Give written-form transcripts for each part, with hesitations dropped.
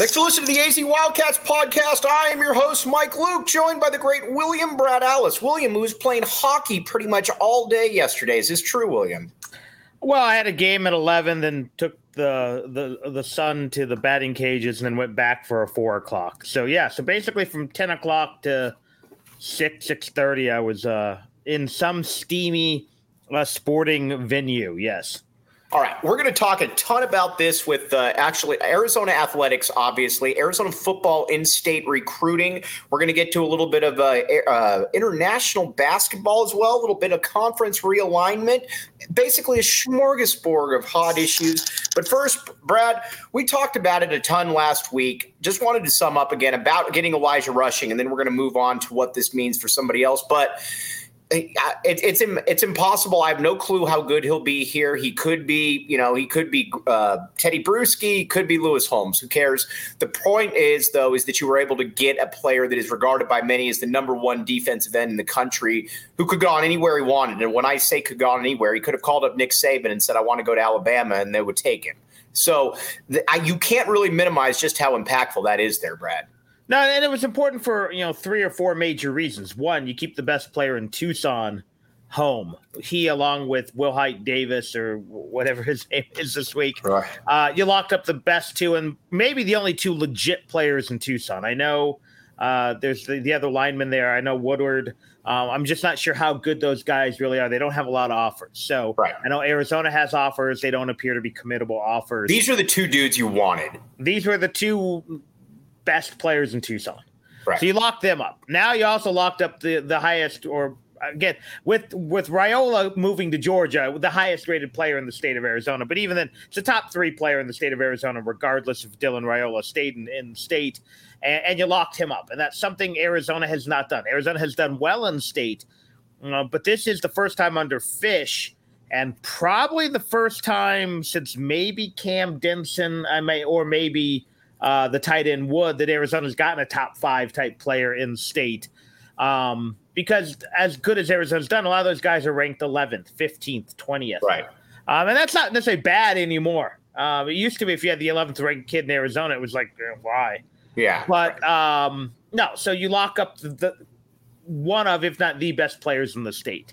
Thanks for listening to the AZ Wildcats podcast. I am your host, Mike Luke, joined by the great William Brad Allis. William, who was playing hockey pretty much all day yesterday. Is this true, William? Well, I had a game at 11, then took the son to the batting cages and then went back for a 4 o'clock. So, yeah, so basically from 10 o'clock to 6:30, I was in some steamy sporting venue, yes. All right, we're going to talk a ton about this with actually Arizona athletics, obviously, Arizona football in-state recruiting. We're going to get to a little bit of international basketball as well, a little bit of conference realignment, basically a smorgasbord of hot issues. But first, Brad, we talked about it a ton last week. Just wanted to sum up again about getting Elijah Rushing, and then we're going to move on to what this means for somebody else. But it's impossible. I have no clue how good he'll be here. He could be, Teddy Bruschi, he could be Lewis Holmes. Who cares? The point is, though, is that you were able to get a player that is regarded by many as the number one defensive end in the country who could go on anywhere he wanted. And when I say could go on anywhere, he could have called up Nick Saban and said, I want to go to Alabama, and they would take him. So you can't really minimize just how impactful that is there, Brad. No, and it was important for, 3 or 4 major reasons. One, you keep the best player in Tucson home. He, along with Will Height Davis or whatever his name is this week, right. You locked up the best two and maybe the only 2 legit players in Tucson. I know there's the other lineman there. I know Woodward. I'm just not sure how good those guys really are. They don't have a lot of offers. So right. I know Arizona has offers. They don't appear to be committable offers. These are the 2 dudes you wanted. These were the 2 best players in Tucson. Right. So you locked them up. Now you also locked up the highest, or again, with Raiola moving to Georgia, the highest rated player in the state of Arizona. But even then, it's a top 3 player in the state of Arizona, regardless if Dylan Raiola stayed in state, and you locked him up. And that's something Arizona has not done. Arizona has done well in state, but this is the first time under Fish, and probably the first time since maybe Cam Denson, maybe the tight end Wood, that Arizona's gotten a top 5 type player in state. Because as good as Arizona's done, a lot of those guys are ranked 11th, 15th, 20th. Right. And that's not necessarily bad anymore. It used to be if you had the 11th ranked kid in Arizona, it was like, why? Yeah. But no, so you lock up the one of, if not the best players in the state.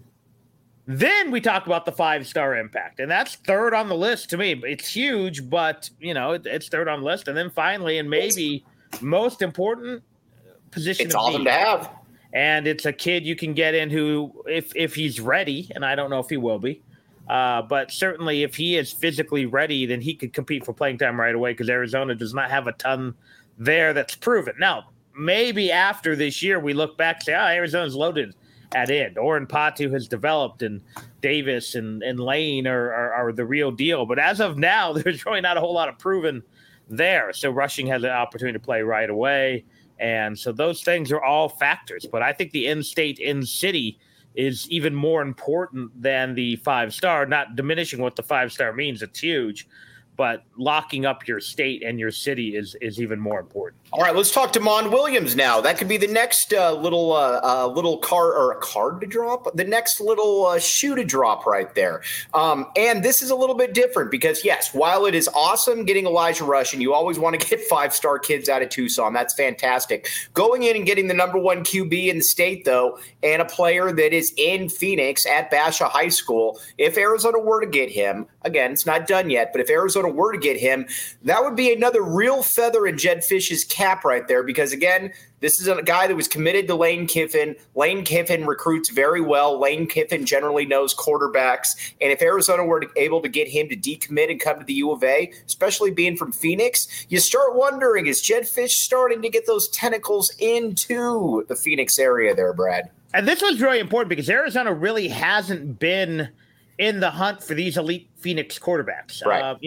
Then we talk about the 5-star impact, and that's third on the list to me. It's huge, but, it's third on the list. And then finally, and maybe most important position it's awesome to have. And it's a kid you can get in who, if he's ready, and I don't know if he will be, but certainly if he is physically ready, then he could compete for playing time right away because Arizona does not have a ton there that's proven. Now, maybe after this year we look back and say, Arizona's loaded at end. Oren Patu has developed, and Davis and Lane are the real deal. But as of now, there's really not a whole lot of proven there. So Rushing has an opportunity to play right away. And so those things are all factors. But I think the in-state, in-city is even more important than the 5-star, not diminishing what the 5-star means. It's huge. But locking up your state and your city is even more important. All right, let's talk to Mon Williams now. That could be the next little card to drop, the next little shoe to drop right there. And this is a little bit different because, yes, while it is awesome getting Elijah Rushing, you always want to get 5-star kids out of Tucson. That's fantastic. Going in and getting the number 1 QB in the state, though, and a player that is in Phoenix at Basha High School, if Arizona were to get him, again, it's not done yet, but if Arizona were to get him, that would be another real feather in Jedd Fisch's cap right there because, again, this is a guy that was committed to Lane Kiffin. Lane Kiffin recruits very well. Lane Kiffin generally knows quarterbacks. And if Arizona were able to get him to decommit and come to the U of A, especially being from Phoenix, you start wondering, is Jedd Fisch starting to get those tentacles into the Phoenix area there, Brad? And this was really important because Arizona really hasn't been in the hunt for these elite Phoenix quarterbacks. Right.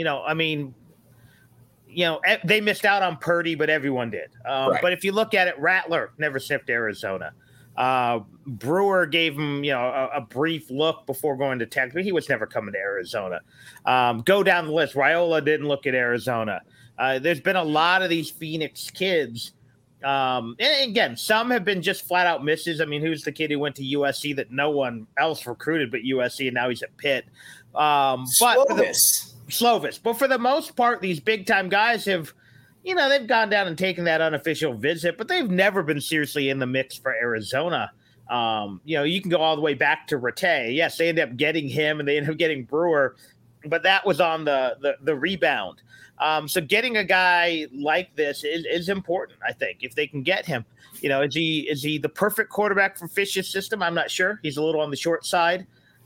They missed out on Purdy, but everyone did. Right. But if you look at it, Rattler never sniffed Arizona. Brewer gave him, a brief look before going to Texas, but he was never coming to Arizona. Go down the list. Raiola didn't look at Arizona. There's been a lot of these Phoenix kids. And again, some have been just flat out misses. I mean, who's the kid who went to USC that no one else recruited but USC, and now he's at Pitt? Slovis. But for the most part, these big time guys have they've gone down and taken that unofficial visit, but they've never been seriously in the mix for Arizona. You can go all the way back to Rattay. Yes, they ended up getting him and they ended up getting Brewer, but that was on the rebound. So getting a guy like this is important, I think, if they can get him. Is he the perfect quarterback for Fish's system? I'm not sure. He's a little on the short side.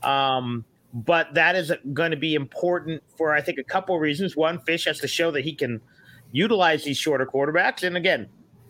But that is going to be important for, I think, a couple of reasons. One, Fish has to show that he can utilize these shorter quarterbacks. And again,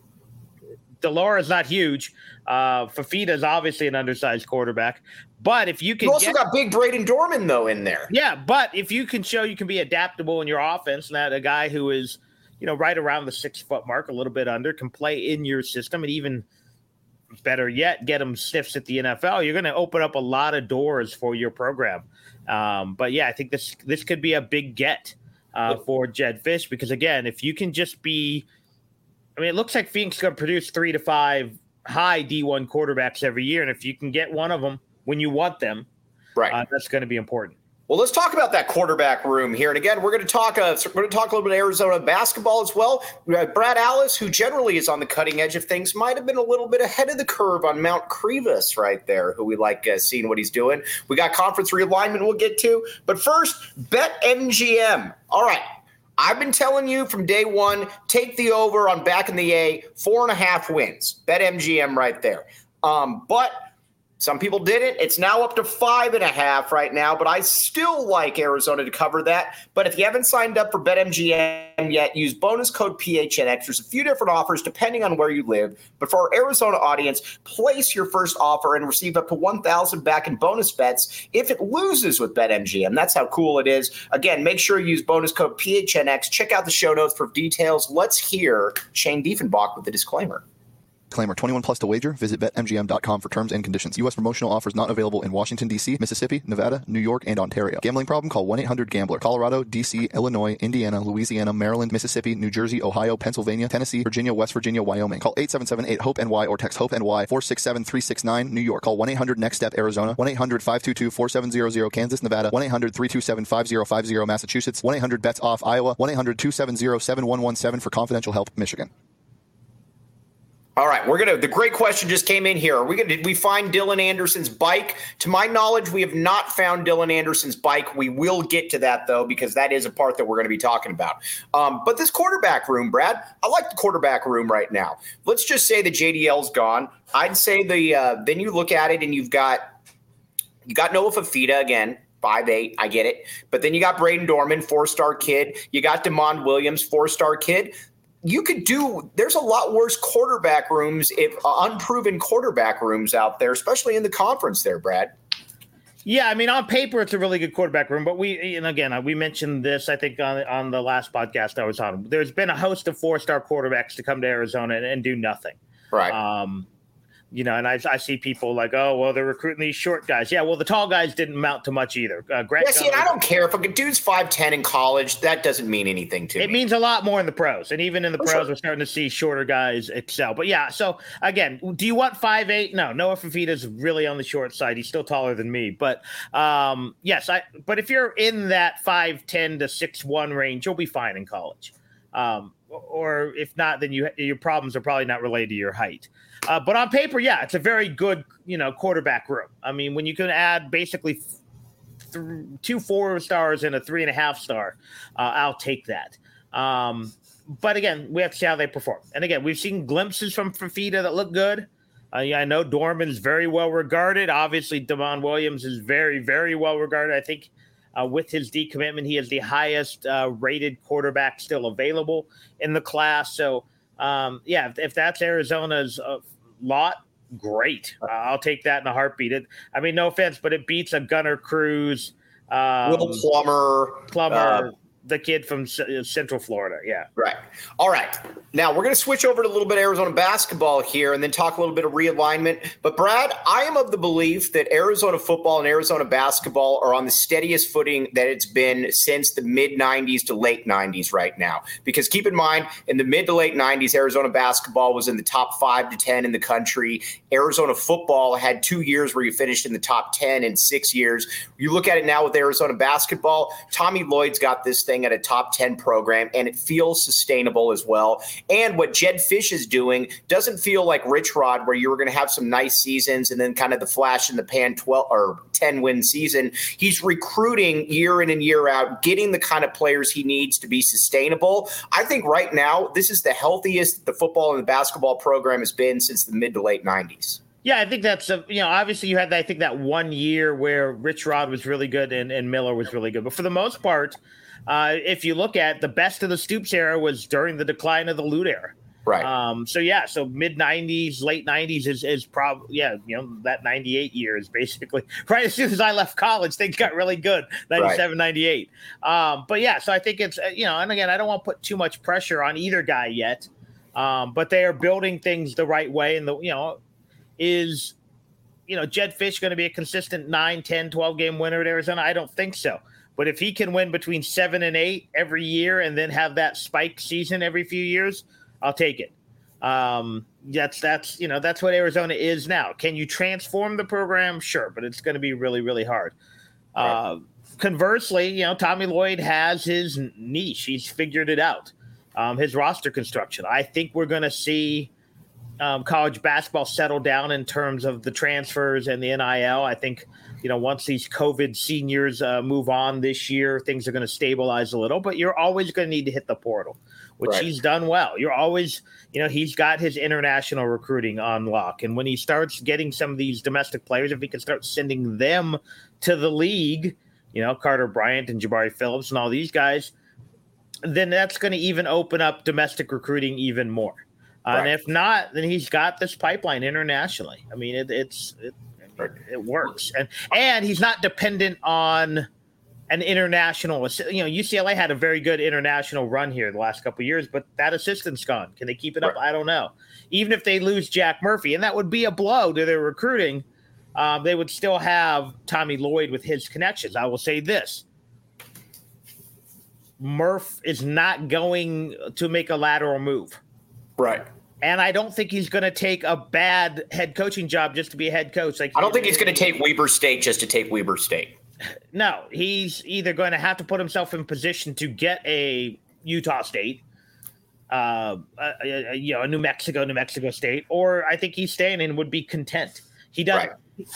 Delora is not huge. Fifita is obviously an undersized quarterback. But if you can got big Braden Dorman, though, in there. Yeah, but if you can show you can be adaptable in your offense, and that a guy who is, right around the 6 foot mark, a little bit under, can play in your system, and even better yet, get him sniffs at the NFL, you're going to open up a lot of doors for your program. But yeah, I think this could be a big get for Jedd Fisch, because again, if you can just be, it looks like Phoenix is going to produce 3 to 5 high D1 quarterbacks every year. And if you can get one of them when you want them, right, that's going to be important. Well, let's talk about that quarterback room here. And again, we're going to talk a little bit of Arizona basketball as well. Brad Allis, who generally is on the cutting edge of things, might have been a little bit ahead of the curve on Mount Krivas right there, who we like seeing what he's doing. We got conference realignment we'll get to. But first, BetMGM. All right. I've been telling you from day one, take the over on back in the A, 4.5 wins. BetMGM right there. But some people didn't. It's now up to 5.5 right now, but I still like Arizona to cover that. But if you haven't signed up for BetMGM yet, use bonus code PHNX. There's a few different offers depending on where you live. But for our Arizona audience, place your first offer and receive up to $1,000 back in bonus bets if it loses with BetMGM. That's how cool it is. Again, make sure you use bonus code PHNX. Check out the show notes for details. Let's hear Shane Diefenbach with the disclaimer. Disclaimer, 21 plus to wager. Visit BetMGM.com for terms and conditions. U.S. promotional offers not available in Washington, D.C., Mississippi, Nevada, New York, and Ontario. Gambling problem? Call 1-800-GAMBLER. Colorado, D.C., Illinois, Indiana, Louisiana, Maryland, Mississippi, New Jersey, Ohio, Pennsylvania, Tennessee, Virginia, West Virginia, Wyoming. Call 877-8-HOPE-NY or text HOPE-NY 467-369. New York. Call 1-800-NEXT-STEP, Arizona. 1-800-522-4700, Kansas, Nevada. 1-800-327-5050, Massachusetts. 1-800-BETS-OFF, Iowa. 1-800-270-7117 for confidential help, Michigan. All right, the great question just came in here. Did we find Dylan Anderson's bike? To my knowledge, we have not found Dylan Anderson's bike. We will get to that, though, because that is a part that we're going to be talking about. But this quarterback room, Brad, I like the quarterback room right now. Let's just say the JDL's gone. I'd say then you look at it and you got Noah Fifita again. 5'8", I get it. But then you got Braden Dorman, 4-star kid. You got DeMond Williams, 4-star kid. There's a lot worse quarterback rooms, unproven quarterback rooms out there, especially in the conference there, Brad. Yeah, on paper, it's a really good quarterback room. But we mentioned this, I think, on the last podcast I was on. There's been a host of 4-star quarterbacks to come to Arizona and do nothing. Right. And I see people like, oh, well, they're recruiting these short guys. Yeah, well, the tall guys didn't amount to much either. And I don't care if a dude's 5'10" in college. That doesn't mean anything to me. It means a lot more in the pros. And even in the pros, we're starting to see shorter guys excel. But, yeah, so, again, do you want 5'8"? No, Noah Fifita's really on the short side. He's still taller than me. But, yes, but if you're in that 5'10" to 6'1" range, you'll be fine in college. Or if not, then your problems are probably not related to your height. But on paper, yeah, it's a very good, quarterback room. When you can add basically 2 4-stars and a 3.5-star, I'll take that. But again, we have to see how they perform. And again, we've seen glimpses from Fifita that look good. I know Dorman's very well regarded. Obviously, DeMond Williams is very, very well regarded. I think with his decommitment, he is the highest rated quarterback still available in the class. So, if that's Arizona's lot, great. I'll take that in a heartbeat. No offense, but it beats a Gunnar Cruz, Will Plummer, the kid from Central Florida. Yeah. Right. All right. Now we're going to switch over to a little bit of Arizona basketball here and then talk a little bit of realignment. But Brad, I am of the belief that Arizona football and Arizona basketball are on the steadiest footing that it's been since the mid-90s to late 90s right now. Because keep in mind, in the mid to late 90s, Arizona basketball was in the top 5 to 10 in the country. Arizona football had 2 years where you finished in the top 10 in 6 years. You look at it now with Arizona basketball, Tommy Lloyd's got this thing thing at a top 10 program, and it feels sustainable as well. And what Jedd Fisch is doing doesn't feel like Rich Rod, where you were going to have some nice seasons and then kind of the flash in the pan 12 or 10 win season. He's recruiting year in and year out, getting the kind of players he needs to be sustainable. I think right now this is the healthiest the football and the basketball program has been since the mid to late 90s. Yeah, I think that's obviously you had I think that 1 year where Rich Rod was really good and Miller was really good, but for the most part, if you look at the best of the Stoops era was during the decline of the Lute era. Right. So mid 90s, late 90s is probably, that 98 year is basically right as soon as I left college, things got really good, 97, right. 98. But yeah, so I think it's, and again, I don't want to put too much pressure on either guy yet, but they are building things the right way. And is Jedd Fisch going to be a consistent 9, 10, 12 game winner at Arizona? I don't think so. But if he can win between 7 and 8 every year and then have that spike season every few years, I'll take it. That's what Arizona is now. Can you transform the program? Sure, but it's going to be really, really hard. Right. Conversely, Tommy Lloyd has his niche. He's figured it out. His roster construction. I think we're going to see college basketball settle down in terms of the transfers and the NIL. I think, once these COVID seniors move on this year, things are going to stabilize a little, but you're always going to need to hit the portal, which right. He's done well. You're always, he's got his international recruiting on lock. And when he starts getting some of these domestic players, if he can start sending them to the league, Carter Bryant and Jabari Phillips and all these guys, then that's going to even open up domestic recruiting even more. Right. And if not, then he's got this pipeline internationally. I mean, it works, and he's not dependent on an international. UCLA had a very good international run here the last couple of years, but that assistant's gone. Can they keep it up? I don't know. Even if they lose Jack Murphy, and that would be a blow to their recruiting, they would still have Tommy Lloyd with his connections. I will say this. Murph is not going to make a lateral move. Right. And I don't think he's going to take a bad head coaching job just to be a head coach. I don't think he's going to take Weber State just to take Weber State. No, he's either going to have to put himself in position to get a Utah State, a New Mexico State, or I think he's staying and would be content. He does. Right.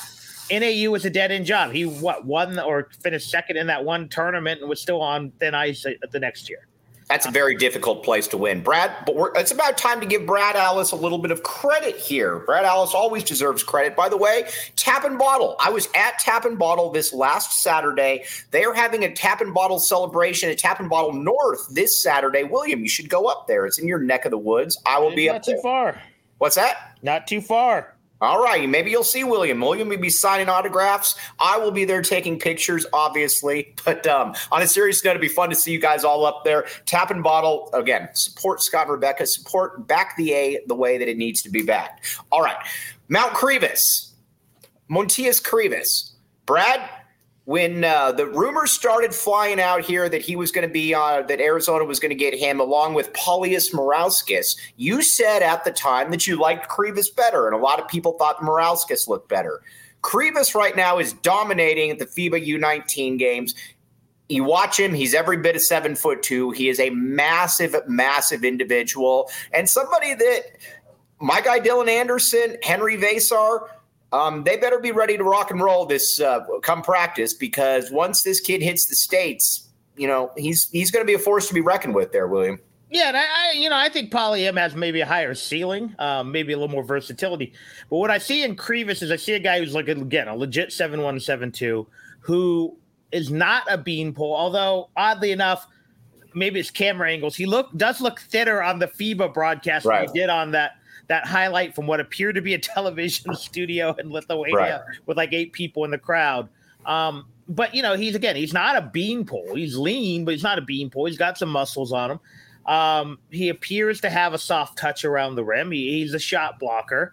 NAU was a dead-end job. He won or finished second in that one tournament and was still on thin ice the next year. That's a very difficult place to win, Brad. But it's about time to give Brad Allis a little bit of credit here. Brad Allis always deserves credit. By the way, Tap and Bottle. I was at Tap and Bottle this last Saturday. They are having a Tap and Bottle celebration at Tap and Bottle North this Saturday. William, you should go up there. It's in your neck of the woods. I will be up there. Not too far. What's that? Not too far. All right. Maybe you'll see William. William will be signing autographs. I will be there taking pictures, obviously. But on a serious note, it'd be fun to see you guys all up there. Tap and Bottle. Again, support Scott and Rebecca. Back the A the way that it needs to be backed. All right. Mount Crevas. Montias Crevas. Brad, when the rumors started flying out here that he was going to be that Arizona was going to get him along with Paulius Morauskas, you said at the time that you liked Crevas better, and a lot of people thought Morauskas looked better. Crevas right now is dominating at the FIBA U19 games. You watch him, he's every bit of 7'2". He is a massive, massive individual, and somebody that my guy Dylan Anderson, Henry Vasar, they better be ready to rock and roll this come practice, because once this kid hits the States, he's going to be a force to be reckoned with there, William. Yeah, and I think Poly M has maybe a higher ceiling, maybe a little more versatility. But what I see in Crevas is I see a guy who's like, again, a legit 7'1", 7'2", who is not a beanpole, although oddly enough, maybe it's camera angles. He does look thinner on the FIBA broadcast than he did on that highlight from what appeared to be a television studio in Lithuania with like 8 people in the crowd. But, he's not a beanpole. He's lean, but he's not a beanpole. He's got some muscles on him. He appears to have a soft touch around the rim. He's a shot blocker.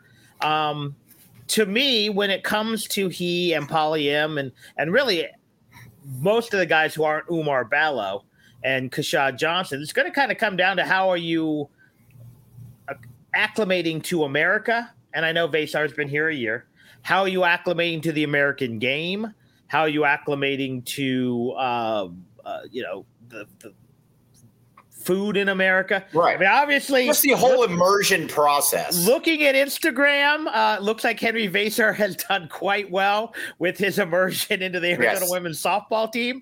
To me, when it comes to he and Poly M and really most of the guys who aren't Umar Ballo and Kashad Johnson, it's going to kind of come down to how are you acclimating to America, and I know Vasar's been here a year. How are you acclimating to the American game? How are you acclimating to the food in America. Right. I mean, obviously, just the whole immersion process. Looking at Instagram, looks like Henry Vasar has done quite well with his immersion into the Arizona women's softball team.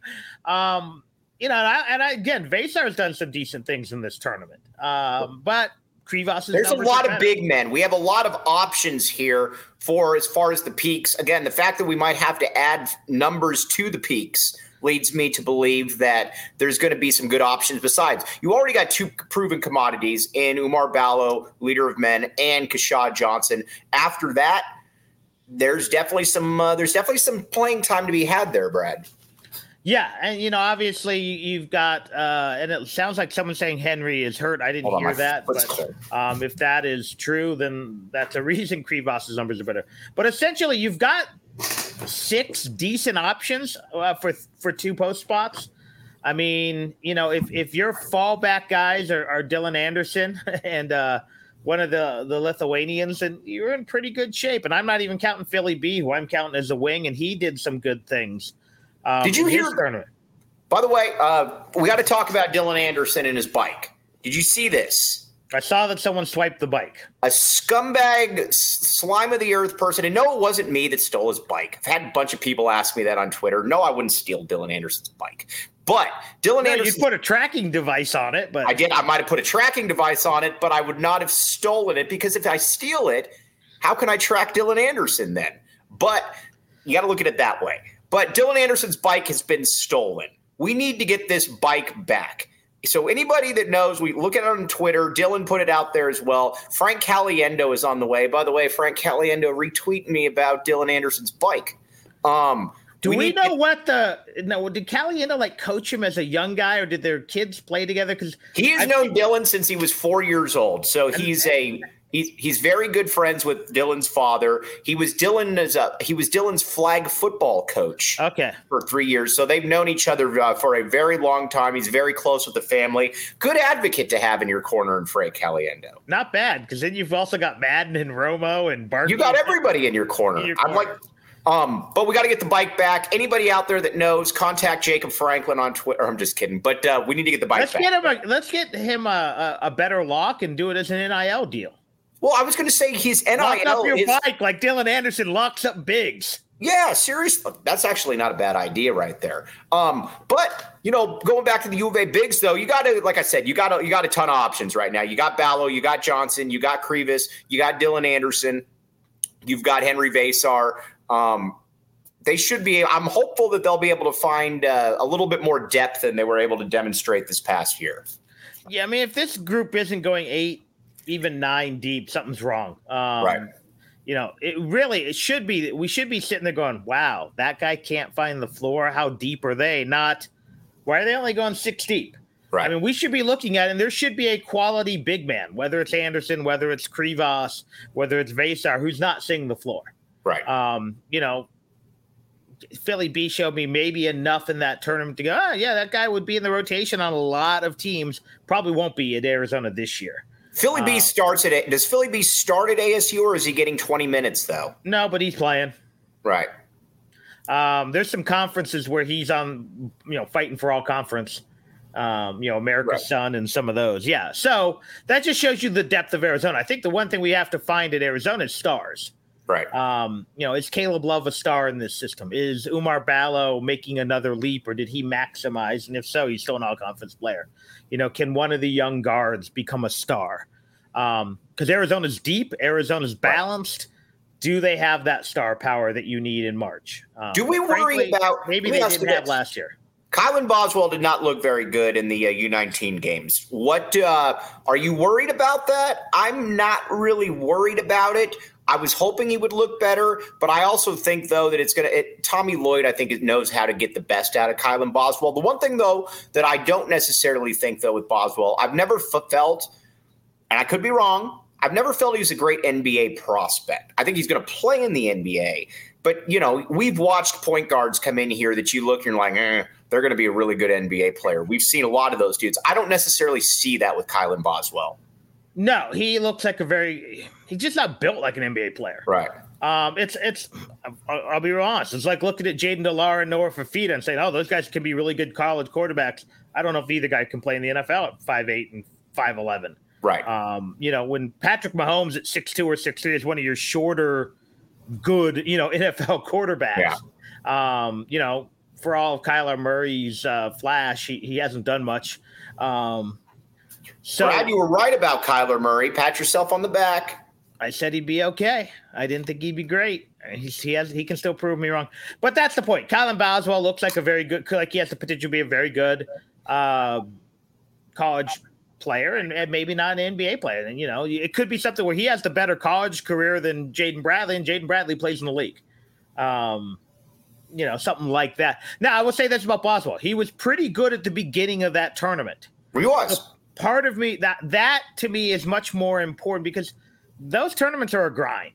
Again, Vasar has done some decent things in this tournament. But there's a lot of big men. We have a lot of options here for as far as the peaks. Again, the fact that we might have to add numbers to the peaks leads me to believe that there's going to be some good options. Besides, you already got two proven commodities in Umar Ballo, leader of men, and Keshad Johnson. After that, there's definitely some playing time to be had there, Brad. Yeah, and obviously you've got, and it sounds like someone's saying Henry is hurt. I didn't hear that, but if that is true, then that's a reason Krivas' numbers are better. But essentially, you've got 6 decent options for 2 post spots. I mean, if your fallback guys are Dylan Anderson and one of the Lithuanians, then you're in pretty good shape. And I'm not even counting Philly B, who I'm counting as a wing, and he did some good things. Did you hear? By the way, we got to talk about Dylan Anderson and his bike. Did you see this? I saw that someone swiped the bike. A scumbag, slime of the earth person. And no, it wasn't me that stole his bike. I've had a bunch of people ask me that on Twitter. No, I wouldn't steal Dylan Anderson's bike. But Dylan Anderson. You put a tracking device on it. But I did. I might have put a tracking device on it, but I would not have stolen it, because if I steal it, how can I track Dylan Anderson then? But you got to look at it that way. But Dylan Anderson's bike has been stolen. We need to get this bike back. So anybody that knows, we look at it on Twitter. Dylan put it out there as well. Frank Caliendo is on the way. By the way, Frank Caliendo retweeted me about Dylan Anderson's bike. Do we know did Caliendo coach him as a young guy, or did their kids play together? Because he has known Dylan since he was 4 years old. So he's very good friends with Dylan's father. He was Dylan's flag football coach. Okay. For 3 years. So they've known each other for a very long time. He's very close with the family. Good advocate to have in your corner in Frank Caliendo. Not bad, because then you've also got Madden and Romo and Barkley. You got everybody in your corner. But we got to get the bike back. Anybody out there that knows, contact Jacob Franklin on Twitter. I'm just kidding, but we need to get the bike back. Let's get him a better lock and do it as an NIL deal. Well, I was going to say his NIL lock up your bike like Dylan Anderson locks up Biggs. Yeah, seriously. That's actually not a bad idea right there. But going back to the U of A bigs, though, you got to, like I said, you got a ton of options right now. You got Ballo, you got Johnson, you got Krivas, you got Dylan Anderson, you've got Henry Vasar. They should be. I'm hopeful that they'll be able to find a little bit more depth than they were able to demonstrate this past year. Yeah, I mean, if this group isn't going 8, even 9 deep, something's wrong. Right. It should be. We should be sitting there going, "Wow, that guy can't find the floor. How deep are they? Not why are they only going 6 deep?" Right. I mean, we should be looking at it, and there should be a quality big man, whether it's Anderson, whether it's Krivas, whether it's Vasar, who's not seeing the floor. Right. Philly B showed me maybe enough in that tournament to go, that guy would be in the rotation on a lot of teams. Probably won't be at Arizona this year. Philly B starts does Philly B start at ASU, or is he getting 20 minutes though? No, but he's playing. Right. There's some conferences where he's on, fighting for all conference. America's Son and some of those. Yeah. So that just shows you the depth of Arizona. I think the one thing we have to find at Arizona is stars. Right. Is Caleb Love a star in this system? Is Umar Ballo making another leap, or did he maximize? And if so, he's still an all-conference player. Can one of the young guards become a star? Because Arizona's deep, Arizona's balanced. Do they have that star power that you need in March? Do we worry about maybe they didn't have last year? Kylan Boswell did not look very good in the U19 games. What are you worried about that? I'm not really worried about it. I was hoping he would look better, but I also think, though, that Tommy Lloyd, I think, knows how to get the best out of Kylan Boswell. The one thing, though, that I don't necessarily think, though, with Boswell, I've never felt, and I could be wrong, I've never felt he was a great NBA prospect. I think he's going to play in the NBA. But, we've watched point guards come in here that you look and you're like, they're going to be a really good NBA player. We've seen a lot of those dudes. I don't necessarily see that with Kylan Boswell. No, he looks like he's just not built like an NBA player. Right. I'll be honest. It's like looking at Jaden DeLar and Noah Fafita and saying, "Oh, those guys can be really good college quarterbacks." I don't know if either guy can play in the NFL at 5'8" and 5'11". Right. When Patrick Mahomes at 6'2" or 6'3" is one of your shorter, good, NFL quarterbacks. Yeah. For all of Kyler Murray's flash, he hasn't done much. So Brad, you were right about Kyler Murray. Pat yourself on the back. I said he'd be okay. I didn't think he'd be great. He can still prove me wrong. But that's the point. Kylan Boswell looks like he has the potential to be a very good college player and maybe not an NBA player. And, it could be something where he has the better college career than Jaden Bradley, and Jaden Bradley plays in the league. Something like that. Now, I will say this about Boswell. He was pretty good at the beginning of that tournament. He was. So part of me, that to me is much more important because those tournaments are a grind.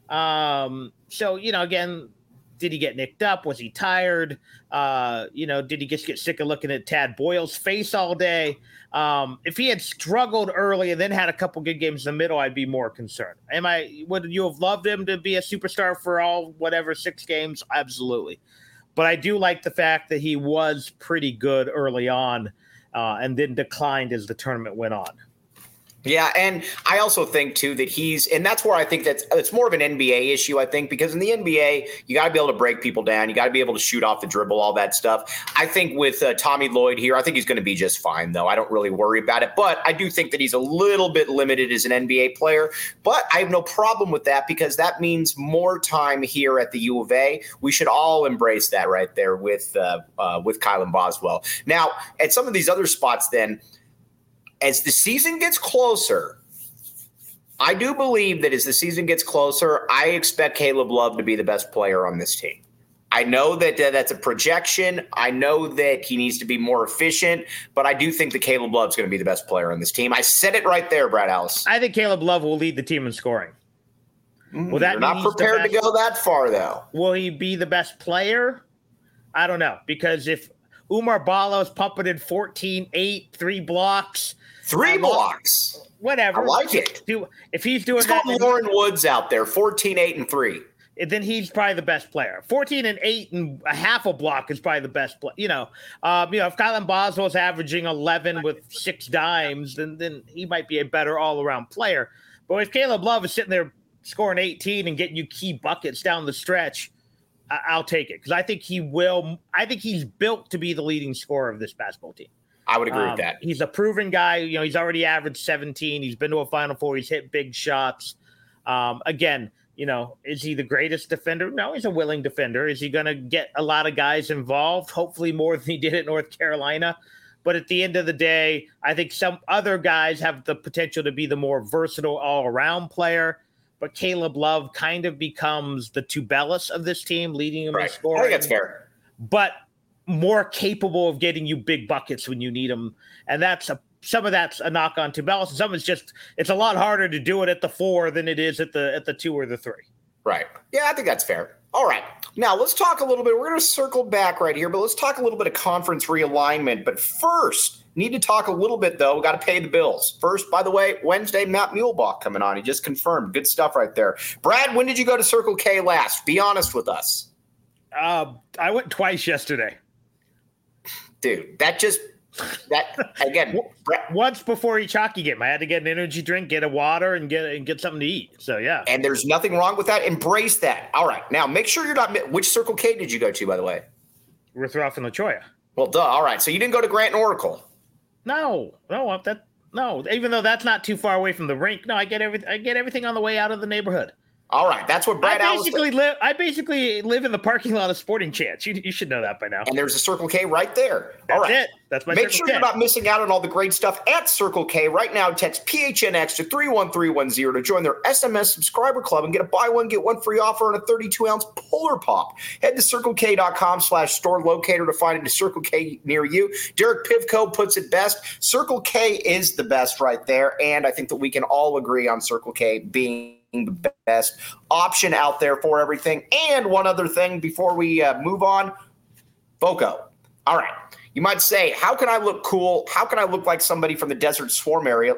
Again, did he get nicked up? Was he tired? Did he just get sick of looking at Tad Boyle's face all day? If he had struggled early and then had a couple good games in the middle, I'd be more concerned. Would you have loved him to be a superstar for all 6 games? Absolutely. But I do like the fact that he was pretty good early on and then declined as the tournament went on. Yeah, and I also think, too, that and that's where I think it's more of an NBA issue, I think, because in the NBA, you got to be able to break people down. You got to be able to shoot off the dribble, all that stuff. I think with Tommy Lloyd here, I think he's going to be just fine, though. I don't really worry about it. But I do think that he's a little bit limited as an NBA player. But I have no problem with that because that means more time here at the U of A. We should all embrace that right there with Kylan Boswell. Now, at some of these other spots then, as the season gets closer, I do believe that as the season gets closer, I expect Caleb Love to be the best player on this team. I know that that's a projection. I know that he needs to be more efficient, but I do think that Caleb Love's going to be the best player on this team. I said it right there, Brad Ellis. I think Caleb Love will lead the team in scoring. Well, you're not prepared to go that far, though. Will he be the best player? I don't know, because if Umar Ballo's pumping in 14, 8, 3 blocks. 3 blocks. Whatever. I like it. If he's doing that. It's called Lauren Woods out there, 14, 8, and 3. Then he's probably the best player. 14 and 8 and a half a block is probably the best play. If Kylan Boswell's averaging 11 with 6 dimes, then he might be a better all-around player. But if Caleb Love is sitting there scoring 18 and getting you key buckets down the stretch, I'll take it because I think he will. I think he's built to be the leading scorer of this basketball team. I would agree with that. He's a proven guy. He's already averaged 17. He's been to a Final Four. He's hit big shots. Again, is he the greatest defender? No, he's a willing defender. Is he going to get a lot of guys involved? Hopefully more than he did at North Carolina. But at the end of the day, I think some other guys have the potential to be the more versatile all-around player. But Caleb Love kind of becomes the Tubelis of this team, leading them in scoring. I think that's fair. But more capable of getting you big buckets when you need them. And some of that's a knock on Tubelis. Some is just it's a lot harder to do it at the 4 than it is at the 2 or the 3. Right. Yeah, I think that's fair. All right. Now let's talk a little bit. We're going to circle back right here, but let's talk a little bit of conference realignment. But first, need to talk a little bit, though. We got to pay the bills. First, by the way, Wednesday, Matt Muehlbach coming on. He just confirmed. Good stuff right there. Brad, when did you go to Circle K last? Be honest with us. I went twice yesterday. Dude, that again. Once before each hockey game, I had to get an energy drink, get a water, and get something to eat. So yeah, and there's nothing wrong with that. Embrace that. All right, now make sure you're not. Which Circle K did you go to, by the way? Ritz-Roth and La Cholla. Well, duh. All right, so you didn't go to Grant and Oracle. No. Even though that's not too far away from the rink. No, I get everything on the way out of the neighborhood. All right, that's what Brad I basically live in the parking lot of Sporting Chance. You should know that by now. And there's a Circle K right there. All right. That's it. That's my Make sure you're not missing out on all the great stuff at Circle K. Right now, text PHNX to 31310 to join their SMS subscriber club and get a buy one, get one free offer on a 32-ounce Polar Pop. Head to CircleK.com/store locator to find a Circle K near you. Derek Pivko puts it best. Circle K is the best right there, and I think that we can all agree on Circle K being the best option out there for everything. And one other thing before we move on, FOCO. All right. You might say, how can I look cool? How can I look like somebody from the Desert Swarm era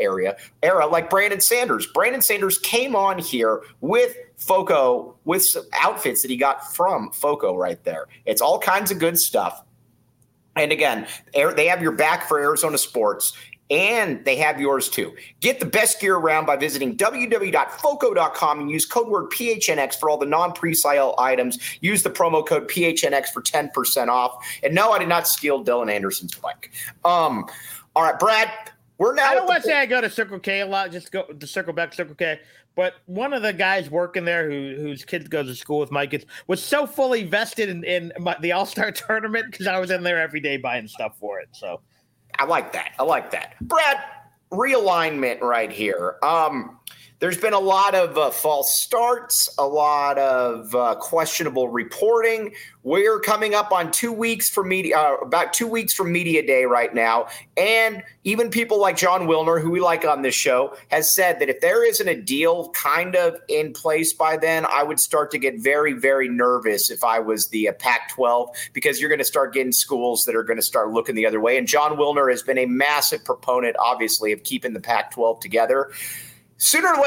like Brandon Sanders? Brandon Sanders came on here with Foco, with some outfits that he got from Foco right there. It's all kinds of good stuff. And again, they have your back for Arizona sports. And they have yours too. Get the best gear around by visiting www.foco.com and use code word PHNX for all the non-presale items. Use the promo code PHNX for 10% off. And no, I did not steal Dylan Anderson's bike. All right, Brad, we're now. I don't want to say I go to Circle K a lot, just go to circle back to Circle K. But one of the guys working there whose kids go to school with my kids was so fully vested in the All-Star tournament because I was in there every day buying stuff for it. So. I like that. Brad, realignment right here. There's been a lot of false starts, a lot of questionable reporting. We're coming up on 2 weeks from about 2 weeks from Media Day right now. And even people like John Wilner, who we like on this show, has said that if there isn't a deal kind of in place by then, I would start to get very, very nervous if I was the Pac-12, because you're going to start getting schools that are going to start looking the other way. And John Wilner has been a massive proponent, obviously, of keeping the Pac-12 together. Sooner or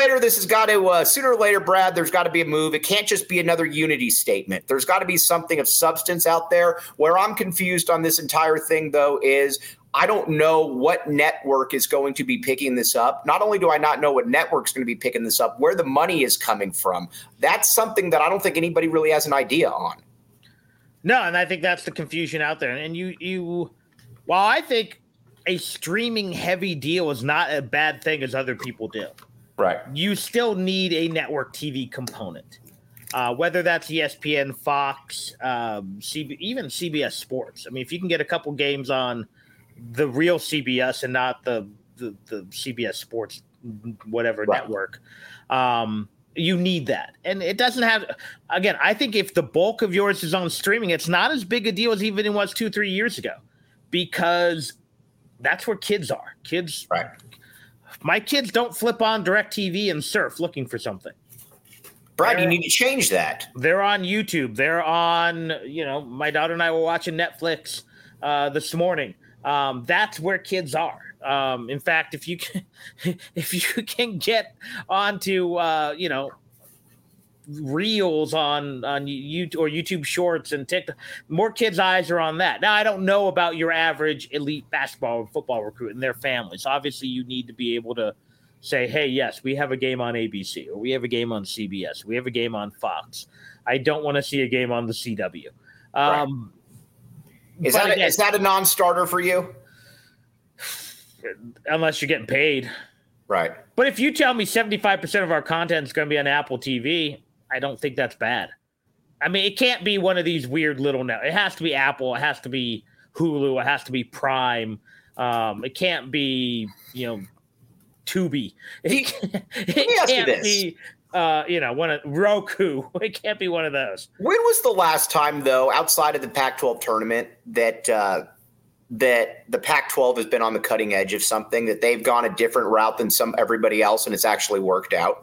later, Brad, there's got to be a move. It can't just be another unity statement. There's got to be something of substance out there. Where I'm confused on this entire thing, though, is I don't know what network is going to be picking this up. Not only do I not know what network's going to be picking this up, where the money is coming from. That's something that I don't think anybody really has an idea on. No, and I think that's the confusion out there. And while I think a streaming heavy deal is not a bad thing as other people do. Right. You still need a network TV component, whether that's ESPN, Fox, even CBS Sports. I mean, if you can get a couple games on the real CBS and not the CBS Sports, whatever network, you need that. And it doesn't have – again, I think if the bulk of yours is on streaming, it's not as big a deal as even it was 2-3 years ago, because that's where kids are. Kids – right. My kids don't flip on DirecTV and surf looking for something. Brad, you need to change that. They're on YouTube. They're on, my daughter and I were watching Netflix this morning. That's where kids are. In fact, if you can get onto, reels on YouTube or YouTube Shorts and TikTok, more kids' eyes are on that. Now, I don't know about your average elite basketball or football recruit and their families. Obviously, you need to be able to say, hey, yes, we have a game on ABC, or we have a game on CBS, we have a game on Fox. I don't want to see a game on the CW. Right. Is that a non-starter for you? Unless you're getting paid. Right. But if you tell me 75% of our content is going to be on Apple TV, I don't think that's bad. I mean, it can't be one of these weird little it has to be Apple. It has to be Hulu. It has to be Prime. It can't be, Tubi. It can't be, one of Roku. It can't be one of those. When was the last time, though, outside of the Pac-12 tournament, that the Pac-12 has been on the cutting edge of something, that they've gone a different route than everybody else, and it's actually worked out?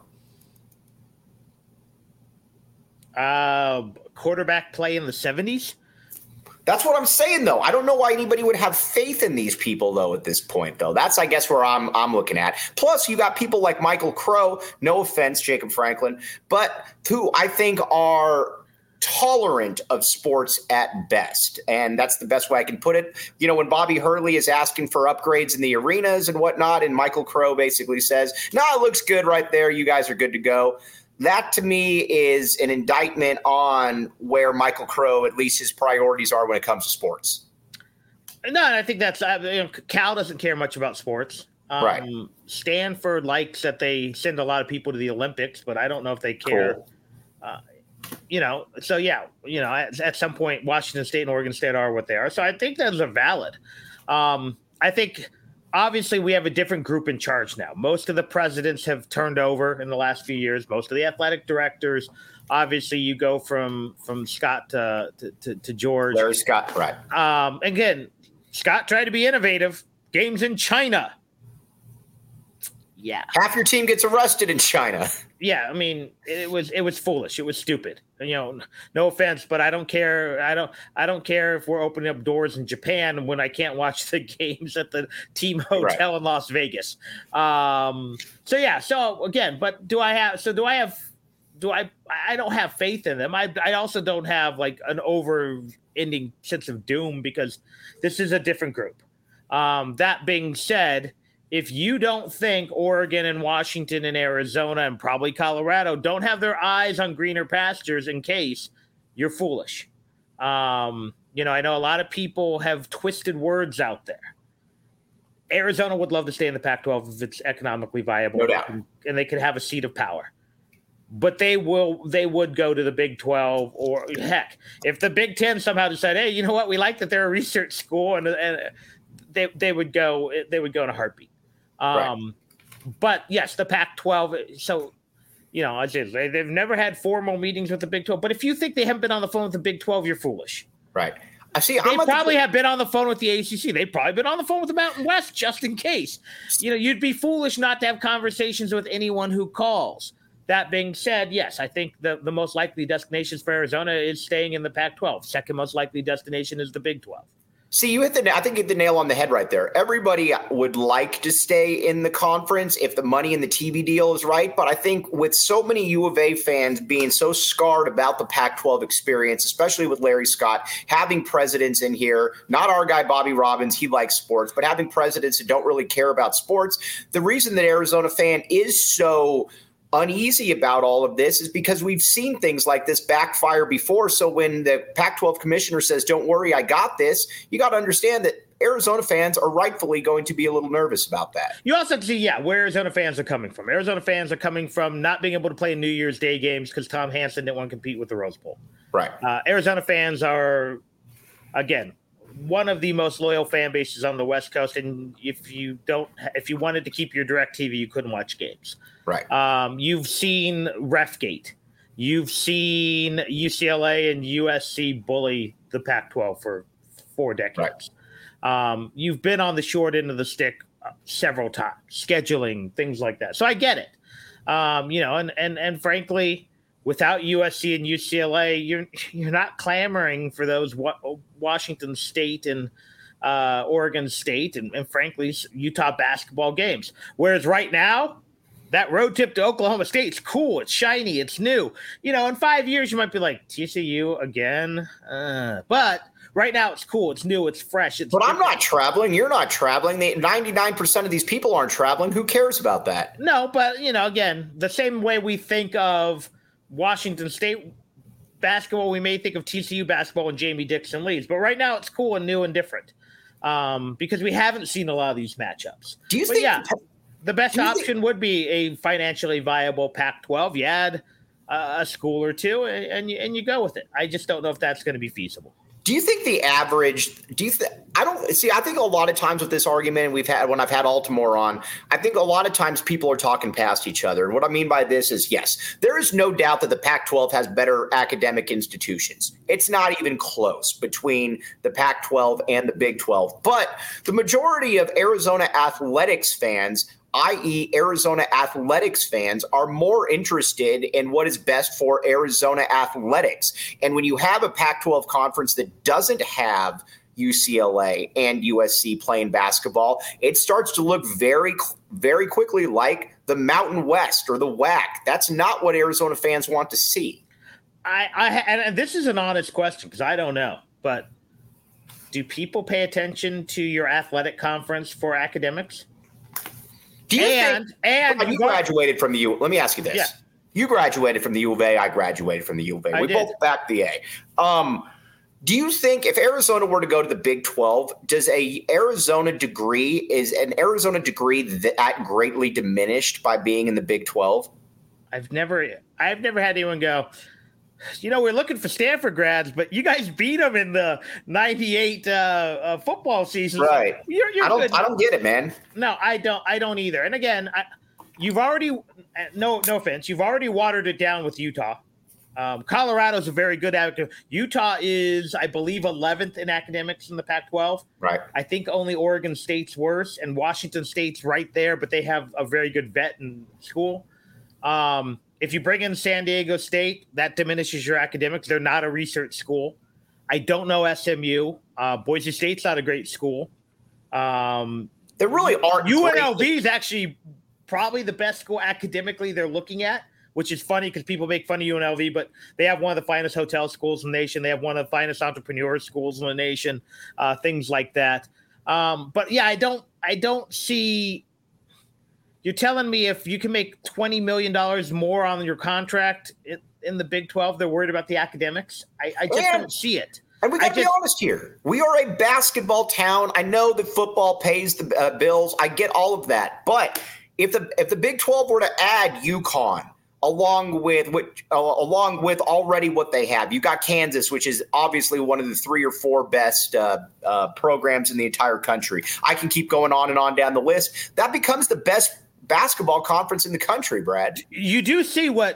Quarterback play in the 70s? That's what I'm saying, though. I don't know why anybody would have faith in these people, though, at this point, though. That's, I guess, where I'm looking at. Plus, you got people like Michael Crow, no offense, Jacob Franklin, but who I think are tolerant of sports at best. And that's the best way I can put it. When Bobby Hurley is asking for upgrades in the arenas and whatnot, and Michael Crow basically says, no, it looks good right there. You guys are good to go. That, to me, is an indictment on where Michael Crow, at least his priorities are when it comes to sports. No, I think that's Cal doesn't care much about sports. Right. Stanford likes that they send a lot of people to the Olympics, but I don't know if they care. Cool. So yeah, at some point, Washington State and Oregon State are what they are. So I think those are valid. I think obviously we have a different group in charge now. Most of the presidents have turned over in the last few years. Most of the athletic directors. Obviously, you go from Scott to George. Larry Scott, right? Again, Scott tried to be innovative. Games in China. Yeah. Half your team gets arrested in China. Yeah, I mean, it was foolish. It was stupid. No offense, but I don't care. I don't care if we're opening up doors in Japan when I can't watch the games at the team hotel in Las Vegas. So again, but I don't have faith in them. I also don't have like an over-ending sense of doom because this is a different group. That being said, if you don't think Oregon and Washington and Arizona and probably Colorado don't have their eyes on greener pastures in case, you're foolish. I know a lot of people have twisted words out there. Arizona would love to stay in the Pac-12 if it's economically viable, no doubt. And they could have a seat of power. But they would go to the Big 12, or heck, if the Big 10 somehow decide, hey, you know what, we like that they're a research school, and they would go in a heartbeat. But yes, the Pac-12. So, they've never had formal meetings with the Big 12. But if you think they haven't been on the phone with the Big 12, you're foolish. Right. They probably have been on the phone with the ACC. They've probably been on the phone with the Mountain West just in case. You'd be foolish not to have conversations with anyone who calls. That being said, yes, I think the most likely destinations for Arizona is staying in the Pac-12. Second most likely destination is the Big 12. See, I think you hit the nail on the head right there. Everybody would like to stay in the conference if the money in the TV deal is right. But I think with so many U of A fans being so scarred about the Pac-12 experience, especially with Larry Scott, having presidents in here, not our guy Bobby Robbins, he likes sports, but having presidents who don't really care about sports, the reason that Arizona fan is so uneasy about all of this is because we've seen things like this backfire before. So when the Pac-12 commissioner says, don't worry, I got this, you got to understand that Arizona fans are rightfully going to be a little nervous about that. You also see, where Arizona fans are coming from. Arizona fans are coming from not being able to play New Year's Day games because Tom Hansen didn't want to compete with the Rose Bowl. Right. Arizona fans are, again, one of the most loyal fan bases on the West Coast. And if you wanted to keep your DirecTV, you couldn't watch games. Right. You've seen Refgate. You've seen UCLA and USC bully the Pac-12 for 4 decades. Right. You've been on the short end of the stick several times, scheduling, things like that. So I get it. And frankly, without USC and UCLA, you're not clamoring for those Washington State and Oregon State and frankly Utah basketball games. Whereas right now, that road trip to Oklahoma State's cool. It's shiny. It's new. In 5 years, you might be like, TCU again. But right now, it's cool. It's new. It's fresh. But I'm not traveling. You're not traveling. 99% of these people aren't traveling. Who cares about that? No, but, again, the same way we think of Washington State basketball, we may think of TCU basketball and Jamie Dixon leads. But right now, it's cool and new and different because we haven't seen a lot of these matchups. Do you think? The best option would be a financially viable Pac-12. You add a school or two, and you go with it. I just don't know if that's going to be feasible. Do you think the average? I think a lot of times with this argument we've had when I've had Altimore on, I think a lot of times people are talking past each other. And what I mean by this is, yes, there is no doubt that the Pac-12 has better academic institutions. It's not even close between the Pac-12 and the Big 12. But the majority of Arizona athletics fans, i.e. Arizona athletics fans, are more interested in what is best for Arizona athletics. And when you have a Pac-12 conference that doesn't have UCLA and USC playing basketball, it starts to look very, very quickly like the Mountain West or the WAC. That's not what Arizona fans want to see. And this is an honest question because I don't know, but do people pay attention to your athletic conference for academics? Do you think you graduated from the U? Let me ask you this. Yeah. You graduated from the U of A. I graduated from the U of A. We both backed the A. Do you think if Arizona were to go to the Big 12, is an Arizona degree that greatly diminished by being in the Big 12? I've never had anyone go, we're looking for Stanford grads, but you guys beat them in the 98 football season. Right. You're good. I don't get it, man. No, I don't either. And again, you've already, no offense, you've already watered it down with Utah. Colorado's a very good advocate. Utah is, I believe, 11th in academics in the Pac-12. Right. I think only Oregon State's worse, and Washington State's right there, but they have a very good vet in school. If you bring in San Diego State, that diminishes your academics. They're not a research school. I don't know SMU. Boise State's not a great school. There really aren't. UNLV is actually probably the best school academically they're looking at, which is funny because people make fun of UNLV, but they have one of the finest hotel schools in the nation. They have one of the finest entrepreneur schools in the nation, things like that. But yeah, I don't see. You're telling me if you can make $20 million more on your contract in the Big 12, they're worried about the academics? I just don't see it. And we got to be honest here. We are a basketball town. I know that football pays the bills. I get all of that. But if the Big 12 were to add UConn along with already what they have, you got Kansas, which is obviously one of the 3 or 4 best programs in the entire country. I can keep going on and on down the list. That becomes the best basketball conference in the country, Brad. You do see what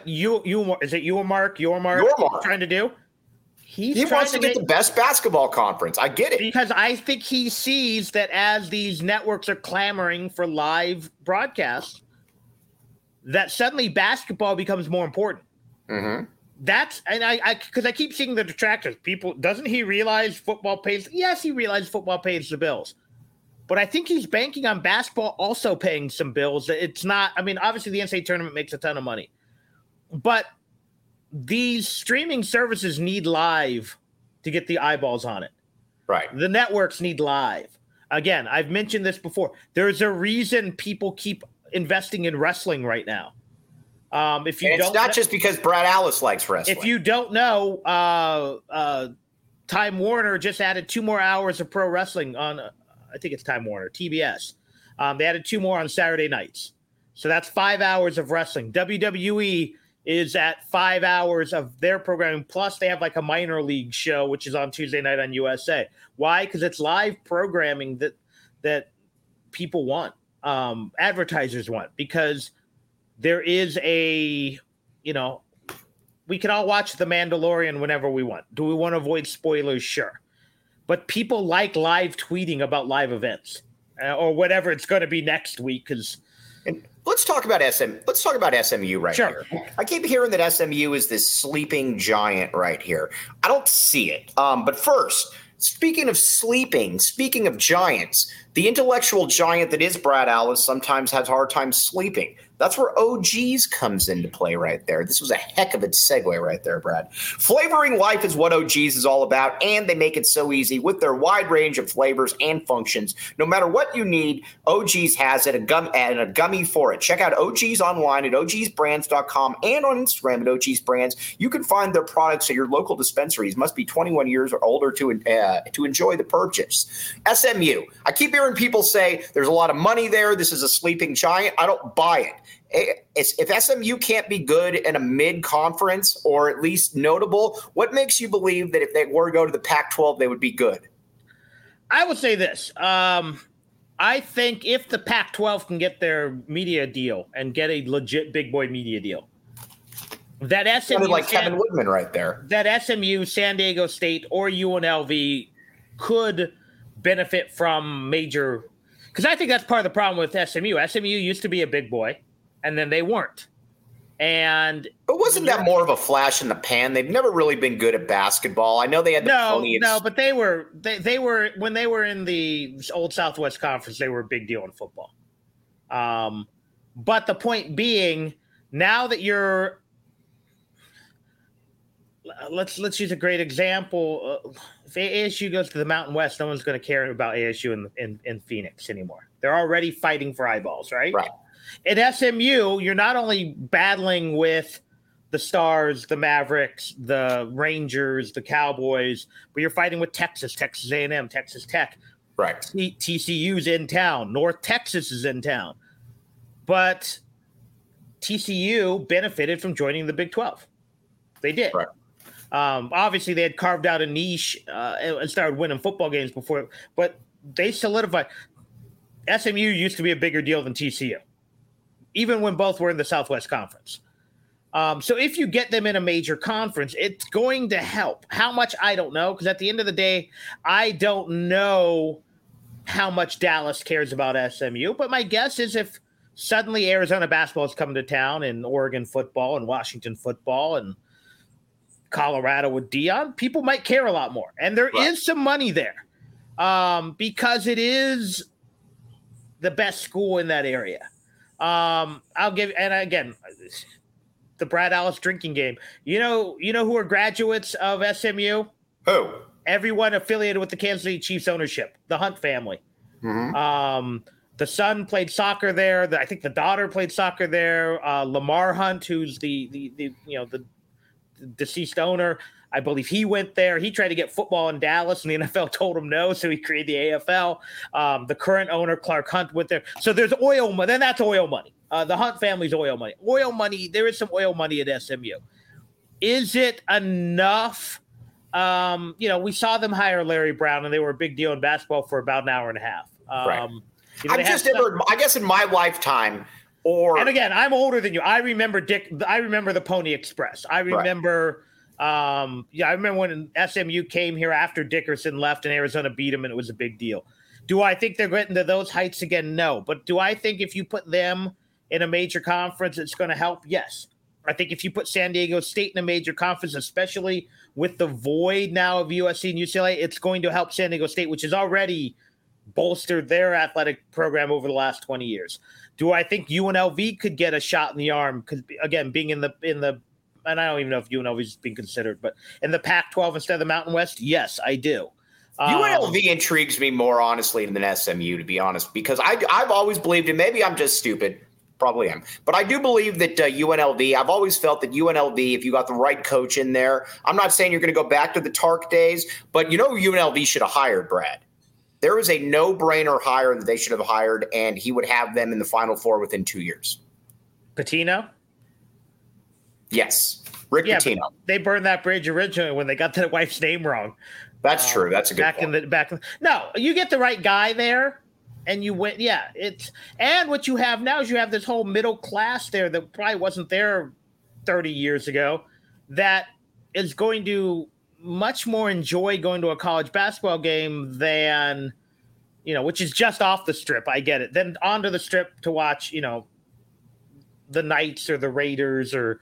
Yormark trying to do? He wants to get the best basketball conference. I get it. Because I think he sees that as these networks are clamoring for live broadcasts, that suddenly basketball becomes more important. Mm-hmm. Because I keep seeing the detractors. People, doesn't he realize football pays? Yes, he realizes football pays the bills. But I think he's banking on basketball also paying some bills. It's not, I mean, obviously the NCAA tournament makes a ton of money. But these streaming services need live to get the eyeballs on it. Right. The networks need live. Again, I've mentioned this before. There's a reason people keep investing in wrestling right now. It's not just because Brad Alice likes wrestling. If you don't know, Time Warner just added 2 more hours of pro wrestling on I think it's Time Warner, TBS. They added 2 more on Saturday nights. So that's 5 hours of wrestling. WWE is at 5 hours of their programming. Plus they have like a minor league show, which is on Tuesday night on USA. Why? Because it's live programming that people want, advertisers want, because there is we can all watch The Mandalorian whenever we want. Do we want to avoid spoilers? Sure. But people like live tweeting about live events or whatever it's going to be next week. Let's talk about SMU right here. I keep hearing that SMU is this sleeping giant right here. I don't see it. But first, speaking of giants, the intellectual giant that is Brad Alice sometimes has a hard time sleeping. That's where OGs comes into play right there. This was a heck of a segue right there, Brad. Flavoring life is what OGs is all about, and they make it so easy with their wide range of flavors and functions. No matter what you need, OGs has it, and a gummy for it. Check out OGs online at ogsbrands.com and on Instagram at ogsbrands. You can find their products at your local dispensaries. Must be 21 years or older to enjoy the purchase. SMU. I keep hearing people say there's a lot of money there. This is a sleeping giant. I don't buy it. If SMU can't be good in a mid-conference or at least notable, what makes you believe that if they were to go to the Pac-12, they would be good? I would say this. I think if the Pac-12 can get their media deal and get a legit big boy media deal, that SMU sounded like Kevin Woodman right there. That SMU, San Diego State, or UNLV could benefit from major – because I think that's part of the problem with SMU. SMU used to be a big boy. And then they weren't. But wasn't that more of a flash in the pan? They've never really been good at basketball. I know they had but they were when they were in the old Southwest Conference, they were a big deal in football. But the point being, now that you're let's use a great example. If ASU goes to the Mountain West, no one's going to care about ASU in Phoenix anymore. They're already fighting for eyeballs, right? Right. At SMU, you're not only battling with the Stars, the Mavericks, the Rangers, the Cowboys, but you're fighting with Texas A&M, Texas Tech. Right. TCU's in town. North Texas is in town. But TCU benefited from joining the Big 12. They did. Right. Obviously, they had carved out a niche and started winning football games before, but they solidified. SMU used to be a bigger deal than TCU, even when both were in the Southwest Conference. So if you get them in a major conference, it's going to help. How much, I don't know, because at the end of the day, I don't know how much Dallas cares about SMU. But my guess is if suddenly Arizona basketball is coming to town and Oregon football and Washington football and Colorado with Dion, people might care a lot more. And there is some money there because it is the best school in that area. I'll give, and again, the Brad Allis drinking game. You know who are graduates of SMU? Who? Everyone affiliated with the Kansas City Chiefs ownership, the Hunt family. Mm-hmm. The son played soccer there. I think the daughter played soccer there. Lamar Hunt, who's the deceased owner, I believe he went there. He tried to get football in Dallas, and the NFL told him no, so he created the AFL. The current owner, Clark Hunt, went there. So there's oil money. Then that's oil money. The Hunt family's oil money. Oil money, there is some oil money at SMU. Is it enough? We saw them hire Larry Brown, and they were a big deal in basketball for about an hour and a half. Right. I guess in my lifetime, and again, I'm older than you. I remember the Pony Express. I remember, I remember when SMU came here after Dickerson left and Arizona beat him, and it was a big deal. Do I think they're getting to those heights again? No. But do I think if you put them in a major conference, it's going to help? Yes. I think if you put San Diego State in a major conference, especially with the void now of USC and UCLA, it's going to help San Diego State, which has already bolstered their athletic program over the last 20 years. Do I think UNLV could get a shot in the arm? Because again, being in the, and I don't even know if UNLV is being considered, but in the Pac-12 instead of the Mountain West, yes, I do. UNLV intrigues me more honestly than SMU, to be honest, because I've always believed, and maybe I'm just stupid, probably am, but I do believe that UNLV, I've always felt that UNLV, if you got the right coach in there, I'm not saying you're going to go back to the Tark days, but UNLV should have hired Brad. There is a no-brainer hire that they should have hired, and he would have them in the Final Four within 2 years. Patino? Yes, Rick Pitino. They burned that bridge originally when they got their wife's name wrong. That's true. That's a good point. No, you get the right guy there, and you win. Yeah, and what you have now is you have this whole middle class there that probably wasn't there 30 years ago that is going to much more enjoy going to a college basketball game than, which is just off the strip. I get it. Then onto the strip to watch, the Knights or the Raiders or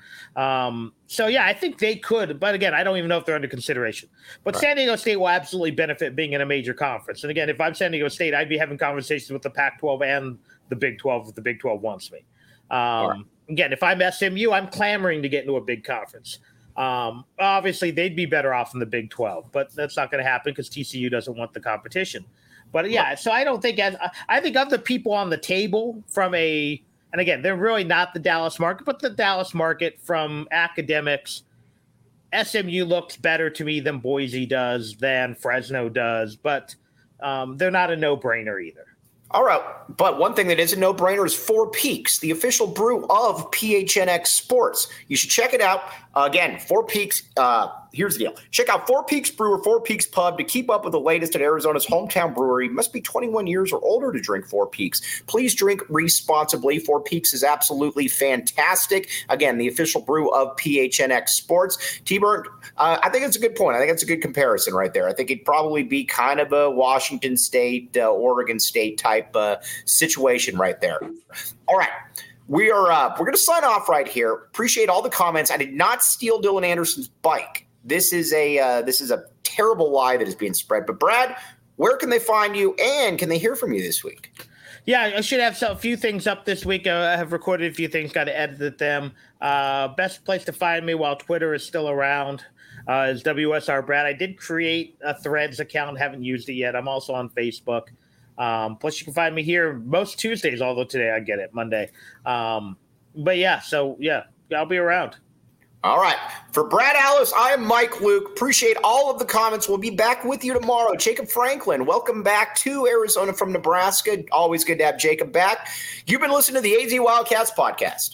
I think they could. But again, I don't even know if they're under consideration. But right. San Diego State will absolutely benefit being in a major conference. And again, if I'm San Diego State, I'd be having conversations with the Pac-12 and the Big 12 if the Big 12 wants me. Right. Again, if I'm SMU, I'm clamoring to get into a big conference. Obviously, they'd be better off in the Big 12, but that's not going to happen because TCU doesn't want the competition. But yeah, so I don't think I think of the people on the table and again, they're really not the Dallas market, but the Dallas market from academics, SMU looks better to me than Boise does, than Fresno does, but they're not a no-brainer either. All right, but one thing that is a no-brainer is Four Peaks, the official brew of PHNX Sports. You should check it out. Again, Four Peaks, here's the deal. Check out Four Peaks Brew or Four Peaks Pub to keep up with the latest at Arizona's hometown brewery. You must be 21 years or older to drink Four Peaks. Please drink responsibly. Four Peaks is absolutely fantastic. Again, the official brew of PHNX Sports. T-Burn, I think it's a good point. I think it's a good comparison right there. I think it'd probably be kind of a Washington State, Oregon State type situation right there. All right. We're going to sign off right here. Appreciate all the comments. I did not steal Dylan Anderson's bike. This is a terrible lie that is being spread. But Brad, where can they find you, and can they hear from you this week? Yeah, I should have a few things up this week. I have recorded a few things, got to edit them. Best place to find me while Twitter is still around is WSR Brad. I did create a Threads account, haven't used it yet. I'm also on Facebook. Plus you can find me here most Tuesdays, although today I get it Monday. But yeah, so yeah, I'll be around. All right. For Brad Allis, I am Mike Luke. Appreciate all of the comments. We'll be back with you tomorrow. Jacob Franklin, welcome back to Arizona from Nebraska. Always good to have Jacob back. You've been listening to the AZ Wildcats podcast.